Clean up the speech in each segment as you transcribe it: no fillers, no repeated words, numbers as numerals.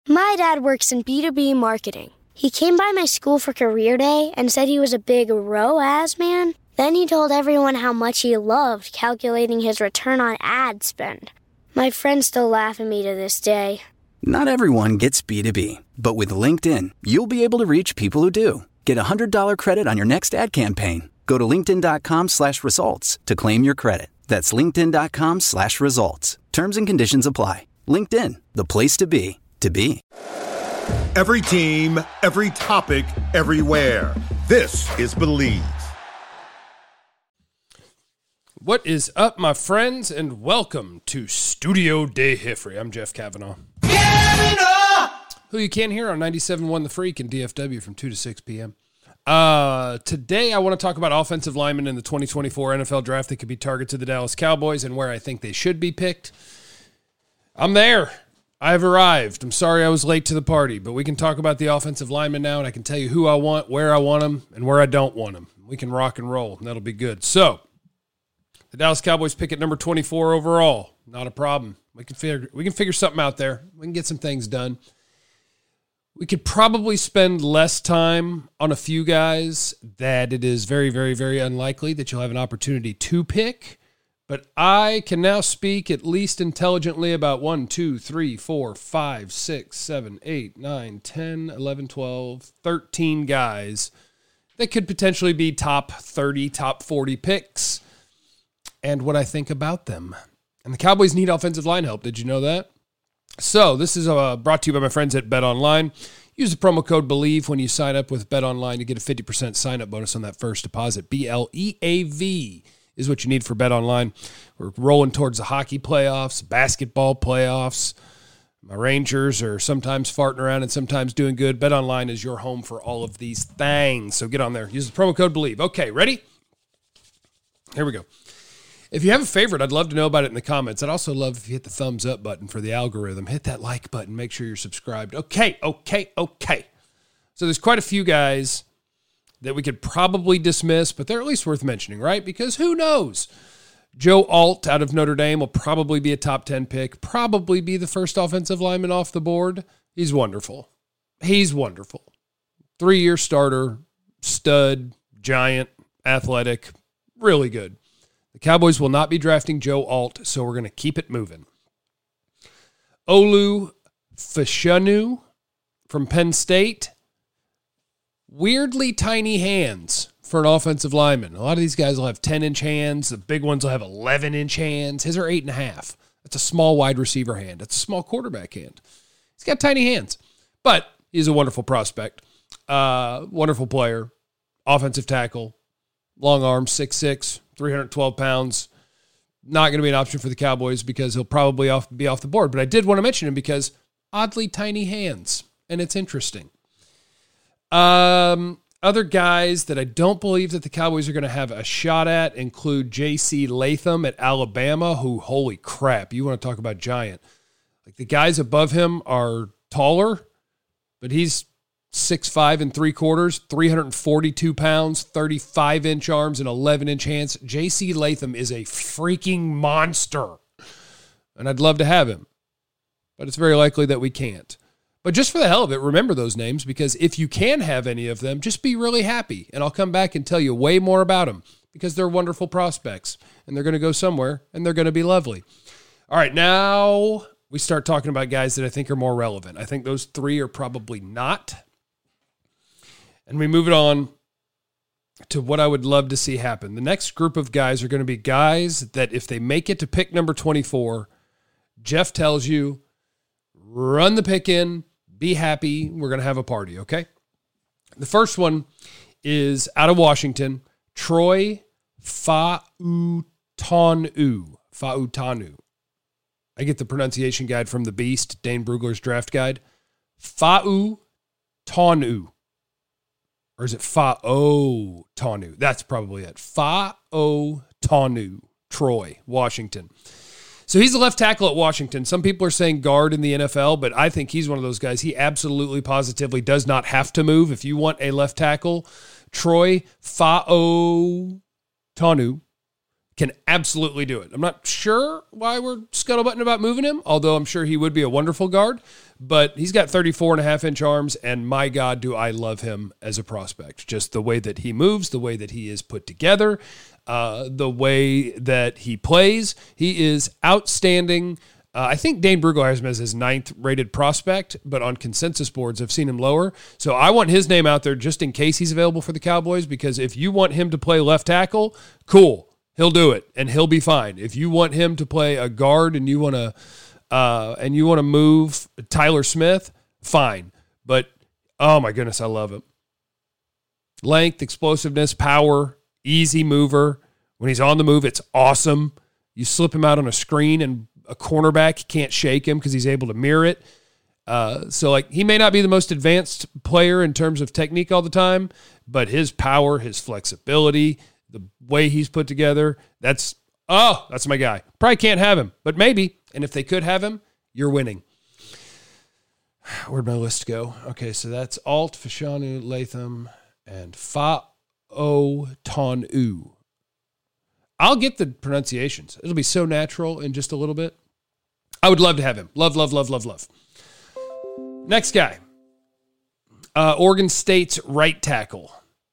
My dad works in B2B marketing. He came by my school for career day and said he was a big ROAS man. Then he told everyone how much he loved calculating his return on ad spend. My friends still laugh at me to this day. Not everyone gets B2B, but with LinkedIn, you'll be able to reach people who do. Get a $100 credit on your next ad campaign. Go to linkedin.com/results to claim your credit. That's linkedin.com/results. Terms and conditions apply. LinkedIn, the place to be, to be. Every team, every topic, everywhere. This is Believe. What is up, my friends, and welcome to Studio De Hifrey. I'm Jeff Kavanaugh. Who you can hear on 97.1 The Freak in DFW from 2 to 6 p.m. Today, I want to talk about offensive linemen in the 2024 NFL Draft that could be targets of the Dallas Cowboys and where I think they should be picked. I'm there. I've arrived. I'm sorry I was late to the party, but we can talk about the offensive linemen now, and I can tell you who I want, where I want them, and where I don't want them. We can rock and roll, and that'll be good. So, the Dallas Cowboys pick at number 24 overall. Not a problem. We can figure something out there. We can get some things done. We could probably spend less time on a few guys that it is very, very, very unlikely that you'll have an opportunity to pick. But I can now speak at least intelligently about 1, 2, 3, 4, 5, 6, 7, 8, 9, 10, 11, 12, 13 guys that could potentially be top 30, top 40 picks and what I think about them. And the Cowboys need offensive line help. Did you know that? So this is brought to you by my friends at BetOnline. Use the promo code BELIEVE when you sign up with BetOnline to get a 50% sign-up bonus on that first deposit. BLEAV is what you need for BetOnline. We're rolling towards the hockey playoffs, basketball playoffs. My Rangers are sometimes farting around and sometimes doing good. BetOnline is your home for all of these things. So get on there. Use the promo code BELIEVE. Okay, ready? Here we go. If you have a favorite, I'd love to know about it in the comments. I'd also love if you hit the thumbs up button for the algorithm. Hit that like button. Make sure you're subscribed. Okay. So there's quite a few guys that we could probably dismiss, but they're at least worth mentioning, right? Because who knows? Joe Alt out of Notre Dame will probably be a top 10 pick, probably be the first offensive lineman off the board. He's wonderful. 3-year starter, stud, giant, athletic, really good. The Cowboys will not be drafting Joe Alt, so we're going to keep it moving. Olu Fashanu from Penn State. Weirdly tiny hands for an offensive lineman. A lot of these guys will have 10-inch hands. The big ones will have 11-inch hands. His are 8.5. That's a small wide receiver hand. That's a small quarterback hand. He's got tiny hands, but he's a wonderful prospect. Wonderful player. Offensive tackle. Long arms, 6'6", 312 pounds. Not going to be an option for the Cowboys because he'll probably be off the board. But I did want to mention him because oddly tiny hands, and it's interesting. Other guys that I don't believe that the Cowboys are going to have a shot at include J.C. Latham at Alabama, who, holy crap, you want to talk about giant. Like the guys above him are taller, but he's 6'5 3/4, 342 pounds, 35-inch arms, and 11-inch hands. J.C. Latham is a freaking monster, and I'd love to have him, but it's very likely that we can't. But just for the hell of it, remember those names, because if you can have any of them, just be really happy, and I'll come back and tell you way more about them because they're wonderful prospects, and they're going to go somewhere, and they're going to be lovely. All right, now we start talking about guys that I think are more relevant. I think those three are probably not. And we move it on to what I would love to see happen. The next group of guys are going to be guys that if they make it to pick number 24, Jeff tells you, run the pick in, be happy, we're going to have a party, okay? The first one is out of Washington, Troy Fautanu. I get the pronunciation guide from the Beast, Dane Brugler's draft guide. Fautanu. Or is it Faotanu? That's probably it. Faotanu, Troy, Washington. So he's a left tackle at Washington. Some people are saying guard in the NFL, but I think he's one of those guys. He absolutely, positively does not have to move. If you want a left tackle, Troy Faotanu, can absolutely do it. I'm not sure why we're scuttlebutting about moving him, although I'm sure he would be a wonderful guard. But he's got 34.5-inch arms, and my God, do I love him as a prospect. Just the way that he moves, the way that he is put together, the way that he plays. He is outstanding. I think Dane Brugel has him as his 9th rated prospect, but on consensus boards, I've seen him lower. So I want his name out there just in case he's available for the Cowboys, because if you want him to play left tackle, cool. He'll do it, and he'll be fine. If you want him to play a guard and you want to move Tyler Smith, fine. But oh my goodness, I love him. Length, explosiveness, power, easy mover. When he's on the move, it's awesome. You slip him out on a screen, and a cornerback can't shake him because he's able to mirror it. So like he may not be the most advanced player in terms of technique all the time, but his power, his flexibility, the way he's put together, that's my guy. Probably can't have him, but maybe. And if they could have him, you're winning. Where'd my list go? Okay, so that's Alt, Fashanu, Latham, and Fa'o-Tonu. I'll get the pronunciations. It'll be so natural in just a little bit. I would love to have him. Love, love, love, love, love. Next guy. Oregon State's right tackle.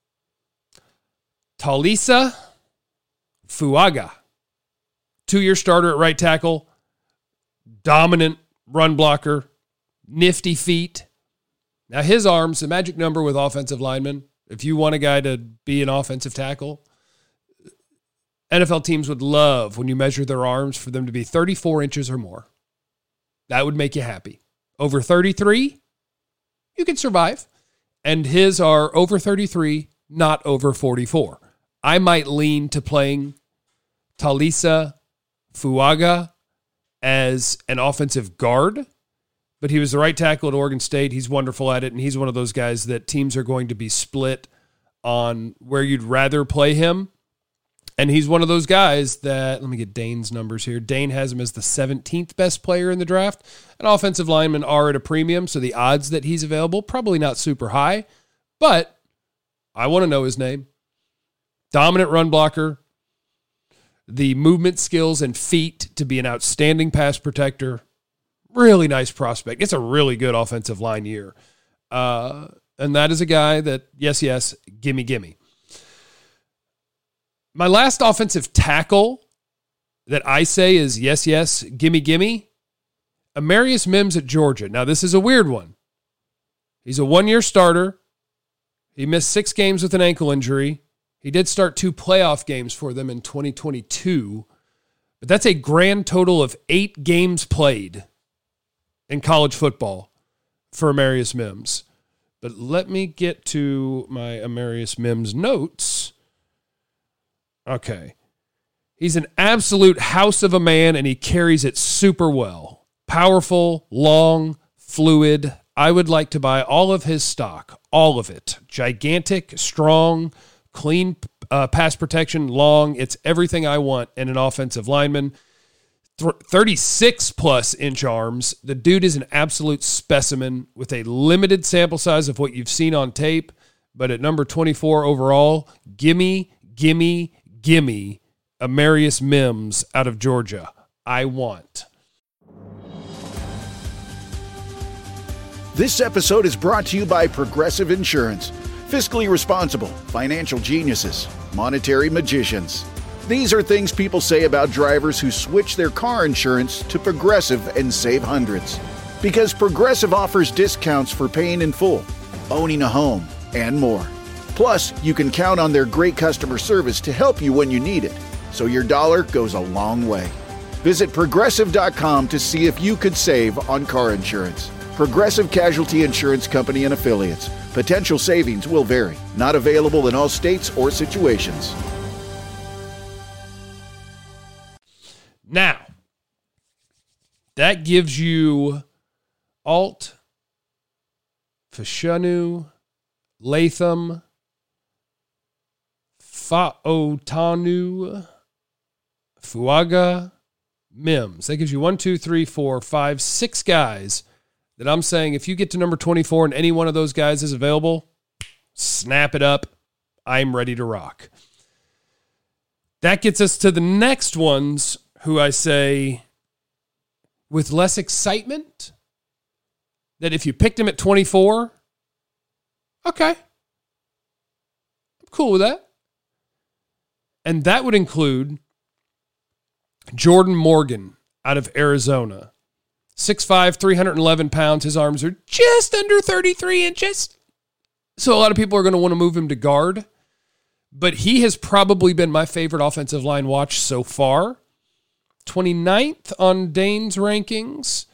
Talisa Fuaga. 2-year starter at right tackle. Dominant run blocker. Nifty feet. Now his arms, the magic number with offensive linemen, if you want a guy to be an offensive tackle, NFL teams would love when you measure their arms for them to be 34 inches or more. That would make you happy. Over 33, you can survive. And his are over 33, not over 44. I might lean to playing Talisa Fuaga as an offensive guard, but he was the right tackle at Oregon State. He's wonderful at it, and he's one of those guys that teams are going to be split on where you'd rather play him. And he's one of those guys that, let me get Dane's numbers here. Dane has him as the 17th best player in the draft. And offensive linemen are at a premium, so the odds that he's available, probably not super high. But I want to know his name. Dominant run blocker. The movement skills and feet to be an outstanding pass protector. Really nice prospect. It's a really good offensive line year. And that is a guy that, yes, gimme. My last offensive tackle that I say is yes, gimme, Amarius Mims at Georgia. Now, this is a weird one. He's a 1-year starter. He missed 6 games with an ankle injury. He did start 2 playoff games for them in 2022, but that's a grand total of 8 games played in college football for Amarius Mims. But let me get to my Amarius Mims notes. Okay. He's an absolute house of a man, and he carries it super well. Powerful, long, fluid. I would like to buy all of his stock, all of it. Gigantic, strong, clean pass protection, long. It's everything I want in an offensive lineman. 36+ inch arms. The dude is an absolute specimen with a limited sample size of what you've seen on tape. But at number 24 overall, gimme Amarius Mims out of Georgia. I want. This episode is brought to you by Progressive Insurance. Fiscally responsible, financial geniuses, monetary magicians. These are things people say about drivers who switch their car insurance to Progressive and save hundreds. Because Progressive offers discounts for paying in full, owning a home, and more. Plus, you can count on their great customer service to help you when you need it, so your dollar goes a long way. Visit Progressive.com to see if you could save on car insurance. Progressive Casualty Insurance Company and Affiliates. Potential savings will vary. Not available in all states or situations. Now, that gives you Alt, Fashanu, Latham, Fa'o-Tonu, Fuaga, Mims. That gives you 1, 2, 3, 4, 5, 6 guys that I'm saying if you get to number 24 and any one of those guys is available, snap it up. I'm ready to rock. That gets us to the next ones who I say with less excitement that if you picked him at 24, okay, I'm cool with that. And that would include Jordan Morgan out of Arizona. 6'5", 311 pounds. His arms are just under 33 inches. So a lot of people are going to want to move him to guard. But he has probably been my favorite offensive line watch so far. 29th on Dane's rankings.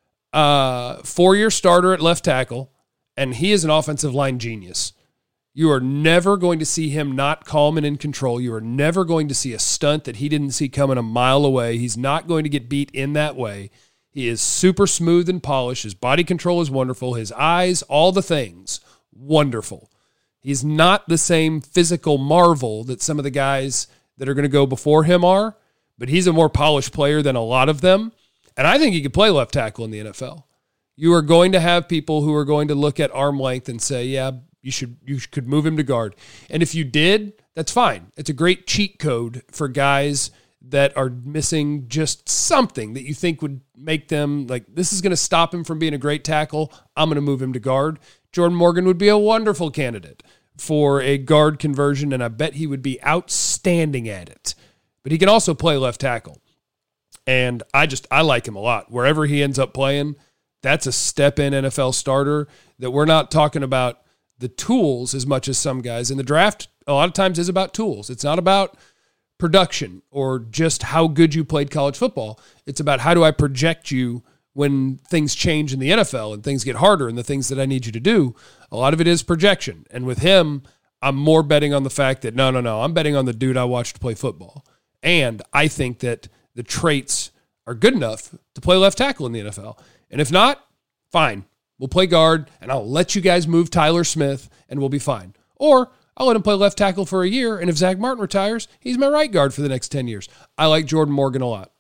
4-year starter at left tackle. And he is an offensive line genius. You are never going to see him not calm and in control. You are never going to see a stunt that he didn't see coming a mile away. He's not going to get beat in that way. He is super smooth and polished. His body control is wonderful. His eyes, all the things, wonderful. He's not the same physical marvel that some of the guys that are going to go before him are, but he's a more polished player than a lot of them. And I think he could play left tackle in the NFL. You are going to have people who are going to look at arm length and say, yeah, you could move him to guard. And if you did, that's fine. It's a great cheat code for guys that are missing just something that you think would make them like, this is going to stop him from being a great tackle. I'm going to move him to guard. Jordan Morgan would be a wonderful candidate for a guard conversion, and I bet he would be outstanding at it. But he can also play left tackle. And I like him a lot. Wherever he ends up playing, that's a step-in NFL starter that we're not talking about the tools as much as some guys. In the draft, a lot of times is about tools. It's not about production or just how good you played college football. It's about how do I project you when things change in the NFL and things get harder and the things that I need you to do. A lot of it is projection. And with him, I'm more betting on the fact that, no, I'm betting on the dude I watched play football. And I think that the traits are good enough to play left tackle in the NFL. And if not, fine. We'll play guard, and I'll let you guys move Tyler Smith, and we'll be fine. Or I'll let him play left tackle for a year, and if Zach Martin retires, he's my right guard for the next 10 years. I like Jordan Morgan a lot.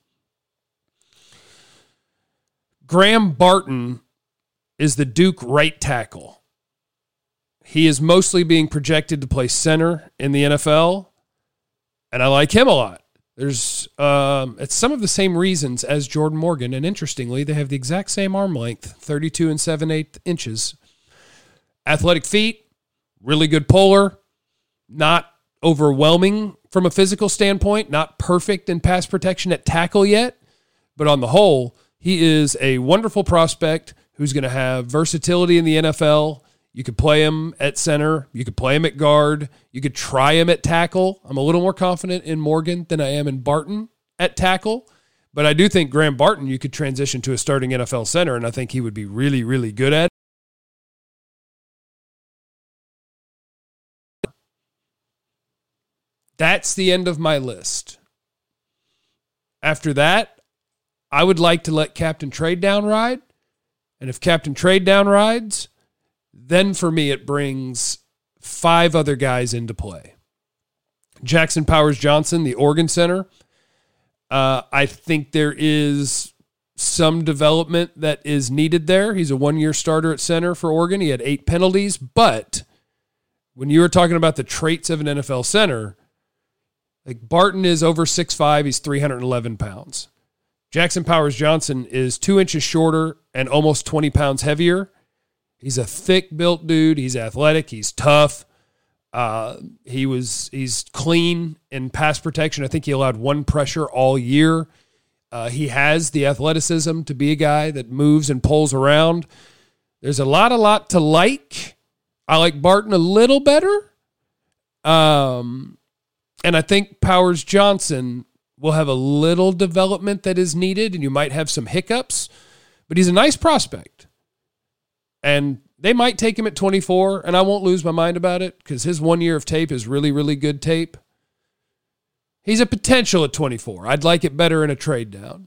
Graham Barton is the Duke right tackle. He is mostly being projected to play center in the NFL, and I like him a lot. There's it's some of the same reasons as Jordan Morgan, and interestingly, they have the exact same arm length, 32 7/8 inches. Athletic feet, really good puller, not overwhelming from a physical standpoint, not perfect in pass protection at tackle yet, but on the whole, he is a wonderful prospect who's going to have versatility in the NFL. You could play him at center. You could play him at guard. You could try him at tackle. I'm a little more confident in Morgan than I am in Barton at tackle. But I do think Graham Barton, you could transition to a starting NFL center, and I think he would be really, really good at it. That's the end of my list. After that, I would like to let Captain Trade Down ride. And if Captain Trade Down rides, then for me, it brings 5 other guys into play. Jackson Powers Johnson, the Oregon center. I think there is some development that is needed there. He's a 1-year starter at center for Oregon. He had 8 penalties, but when you were talking about the traits of an NFL center, like Barton is over 6'5", he's 311 pounds. Jackson Powers Johnson is 2 inches shorter and almost 20 pounds heavier. He's a thick-built dude. He's athletic. He's tough. He's clean in pass protection. I think he allowed 1 pressure all year. He has the athleticism to be a guy that moves and pulls around. There's a lot to like. I like Barton a little better. And I think Powers Johnson will have a little development that is needed, and you might have some hiccups, but he's a nice prospect. And they might take him at 24, and I won't lose my mind about it because his 1 year of tape is really, really good tape. He's a potential at 24. I'd like it better in a trade down.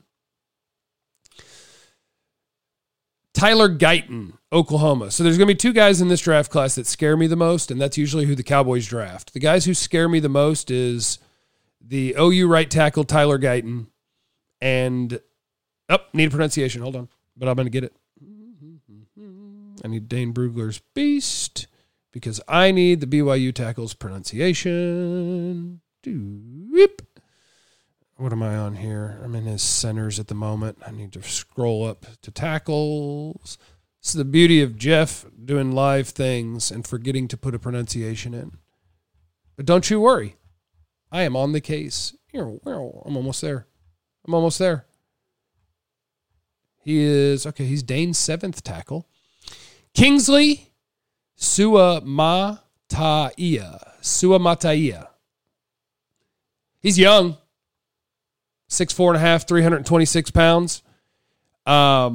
Tyler Guyton, Oklahoma. So there's going to be 2 guys in this draft class that scare me the most, and that's usually who the Cowboys draft. The guys who scare me the most is the OU right tackle, Tyler Guyton, and, need a pronunciation. Hold on, but I'm going to get it. I need Dane Brugler's Beast because I need the BYU tackle's pronunciation. What am I on here? I'm in his centers at the moment. I need to scroll up to tackles. This is the beauty of Jeff doing live things and forgetting to put a pronunciation in. But don't you worry. I am on the case. I'm almost there. He is, okay, he's Dane's 7th tackle. Kingsley Suamataia. He's young. 6'4.5", 326 pounds. Let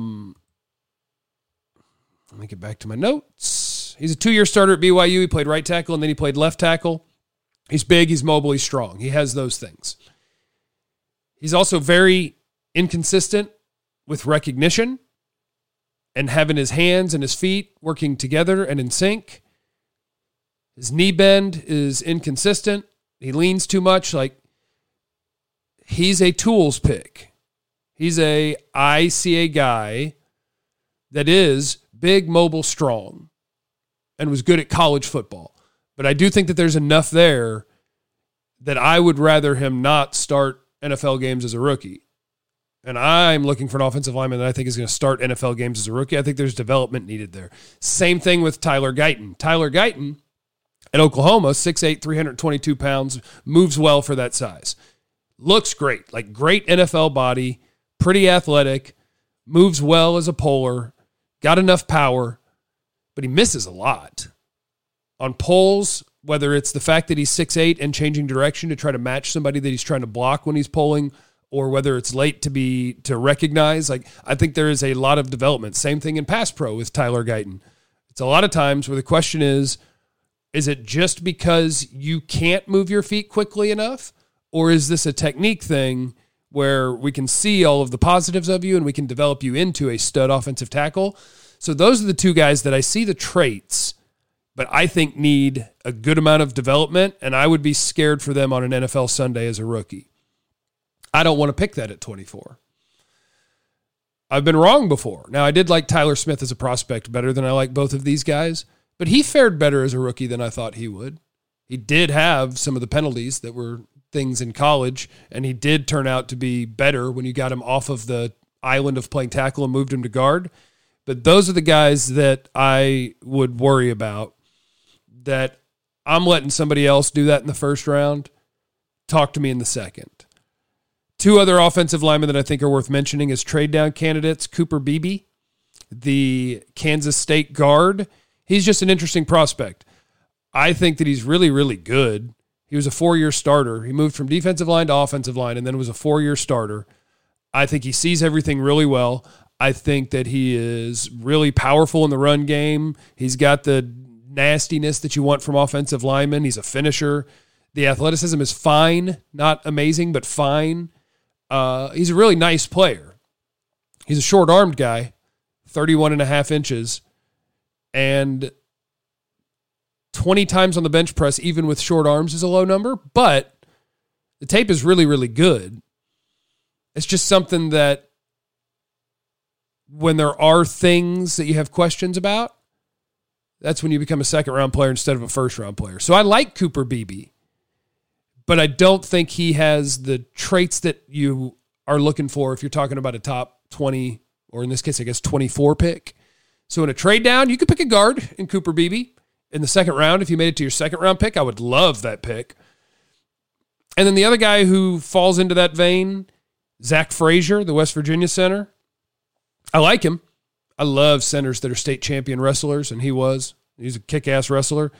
me get back to my notes. He's a 2-year starter at BYU. He played right tackle, and then he played left tackle. He's big, he's mobile, he's strong. He has those things. He's also very inconsistent with recognition and having his hands and his feet working together and in sync. His knee bend is inconsistent. He leans too much. He's a tools pick. I see a guy that is big, mobile, strong, and was good at college football. But I do think that there's enough there that I would rather him not start NFL games as a rookie. And I'm looking for an offensive lineman that I think is going to start NFL games as a rookie. I think there's development needed there. Same thing with Tyler Guyton. Tyler Guyton at Oklahoma, 6'8", 322 pounds, moves well for that size. Looks great, great NFL body, pretty athletic, moves well as a polar, got enough power, but he misses a lot. On pulls, whether it's the fact that he's 6'8" and changing direction to try to match somebody that he's trying to block when he's pulling, or whether it's late to recognize, I think there is a lot of development. Same thing in pass pro with Tyler Guyton. It's a lot of times where the question is it just because you can't move your feet quickly enough? Or is this a technique thing where we can see all of the positives of you and we can develop you into a stud offensive tackle? So those are the two guys that I see the traits, but I think need a good amount of development, and I would be scared for them on an NFL Sunday as a rookie. I don't want to pick that at 24. I've been wrong before. Now, I did like Tyler Smith as a prospect better than I like both of these guys, but he fared better as a rookie than I thought he would. He did have some of the penalties that were things in college, and he did turn out to be better when you got him off of the island of playing tackle and moved him to guard. But those are the guys that I would worry about, that I'm letting somebody else do that in the first round. Talk to me in the second. Two other offensive linemen that I think are worth mentioning as trade down candidates: Cooper Beebe, the Kansas State guard. He's just an interesting prospect. I think that he's really, really good. He was a 4-year starter. He moved from defensive line to offensive line and then was a 4-year starter. I think he sees everything really well. I think that he is really powerful in the run game. He's got the nastiness that you want from offensive linemen. He's a finisher. The athleticism is fine, not amazing, but fine. He's a really nice player. He's a short-armed guy, 31.5 inches, and 20 times on the bench press, even with short arms, is a low number, but the tape is really, really good. It's just something that when there are things that you have questions about, that's when you become a second-round player instead of a first-round player. So I like Cooper Beebe, but I don't think he has the traits that you are looking for if you're talking about a top 20, or in this case, I guess, 24 pick. So in a trade down, you could pick a guard in Cooper Beebe. In the second round, if you made it to your second round pick, I would love that pick. And then the other guy who falls into that vein, Zach Frazier, the West Virginia center. I like him. I love centers that are state champion wrestlers, and he was. He's a kick-ass wrestler.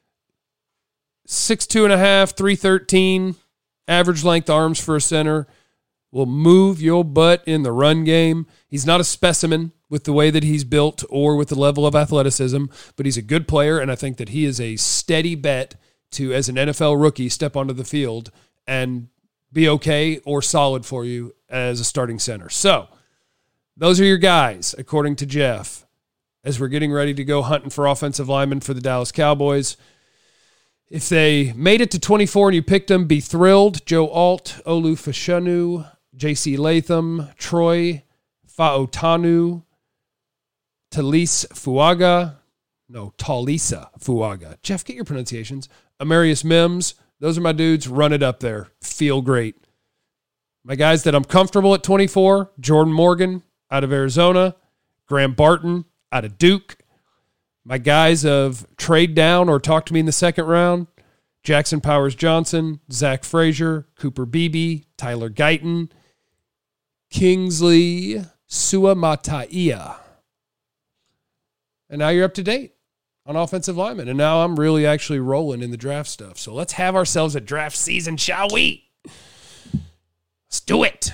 6'2.5", 313, average length arms for a center. Will move your butt in the run game. He's not a specimen with the way that he's built or with the level of athleticism, but he's a good player, and I think that he is a steady bet to, as an NFL rookie, step onto the field and be okay or solid for you as a starting center. So those are your guys, according to Jeff, as we're getting ready to go hunting for offensive linemen for the Dallas Cowboys. If they made it to 24 and you picked them, be thrilled. Joe Alt, Olu Fashanu, J.C. Latham, Troy Faotanu, Talisa Fuaga. Jeff, get your pronunciations. Amarius Mims. Those are my dudes. Run it up there. Feel great. My guys that I'm comfortable at 24, Jordan Morgan out of Arizona, Graham Barton out of Duke. My guys of trade down or talk to me in the second round, Jackson Powers Johnson, Zach Frazier, Cooper Beebe, Tyler Guyton, Kingsley Suamataia. And now you're up to date on offensive linemen. And now I'm really actually rolling in the draft stuff. So let's have ourselves a draft season, shall we? Let's do it.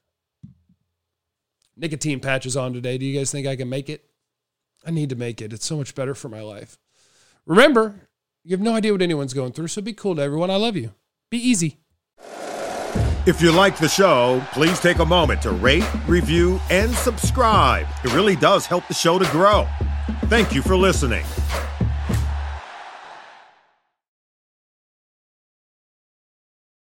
Nicotine patch is on today. Do you guys think I can make it? I need to make it. It's so much better for my life. Remember, you have no idea what anyone's going through, so be cool to everyone. I love you. Be easy. If you like the show, please take a moment to rate, review, and subscribe. It really does help the show to grow. Thank you for listening.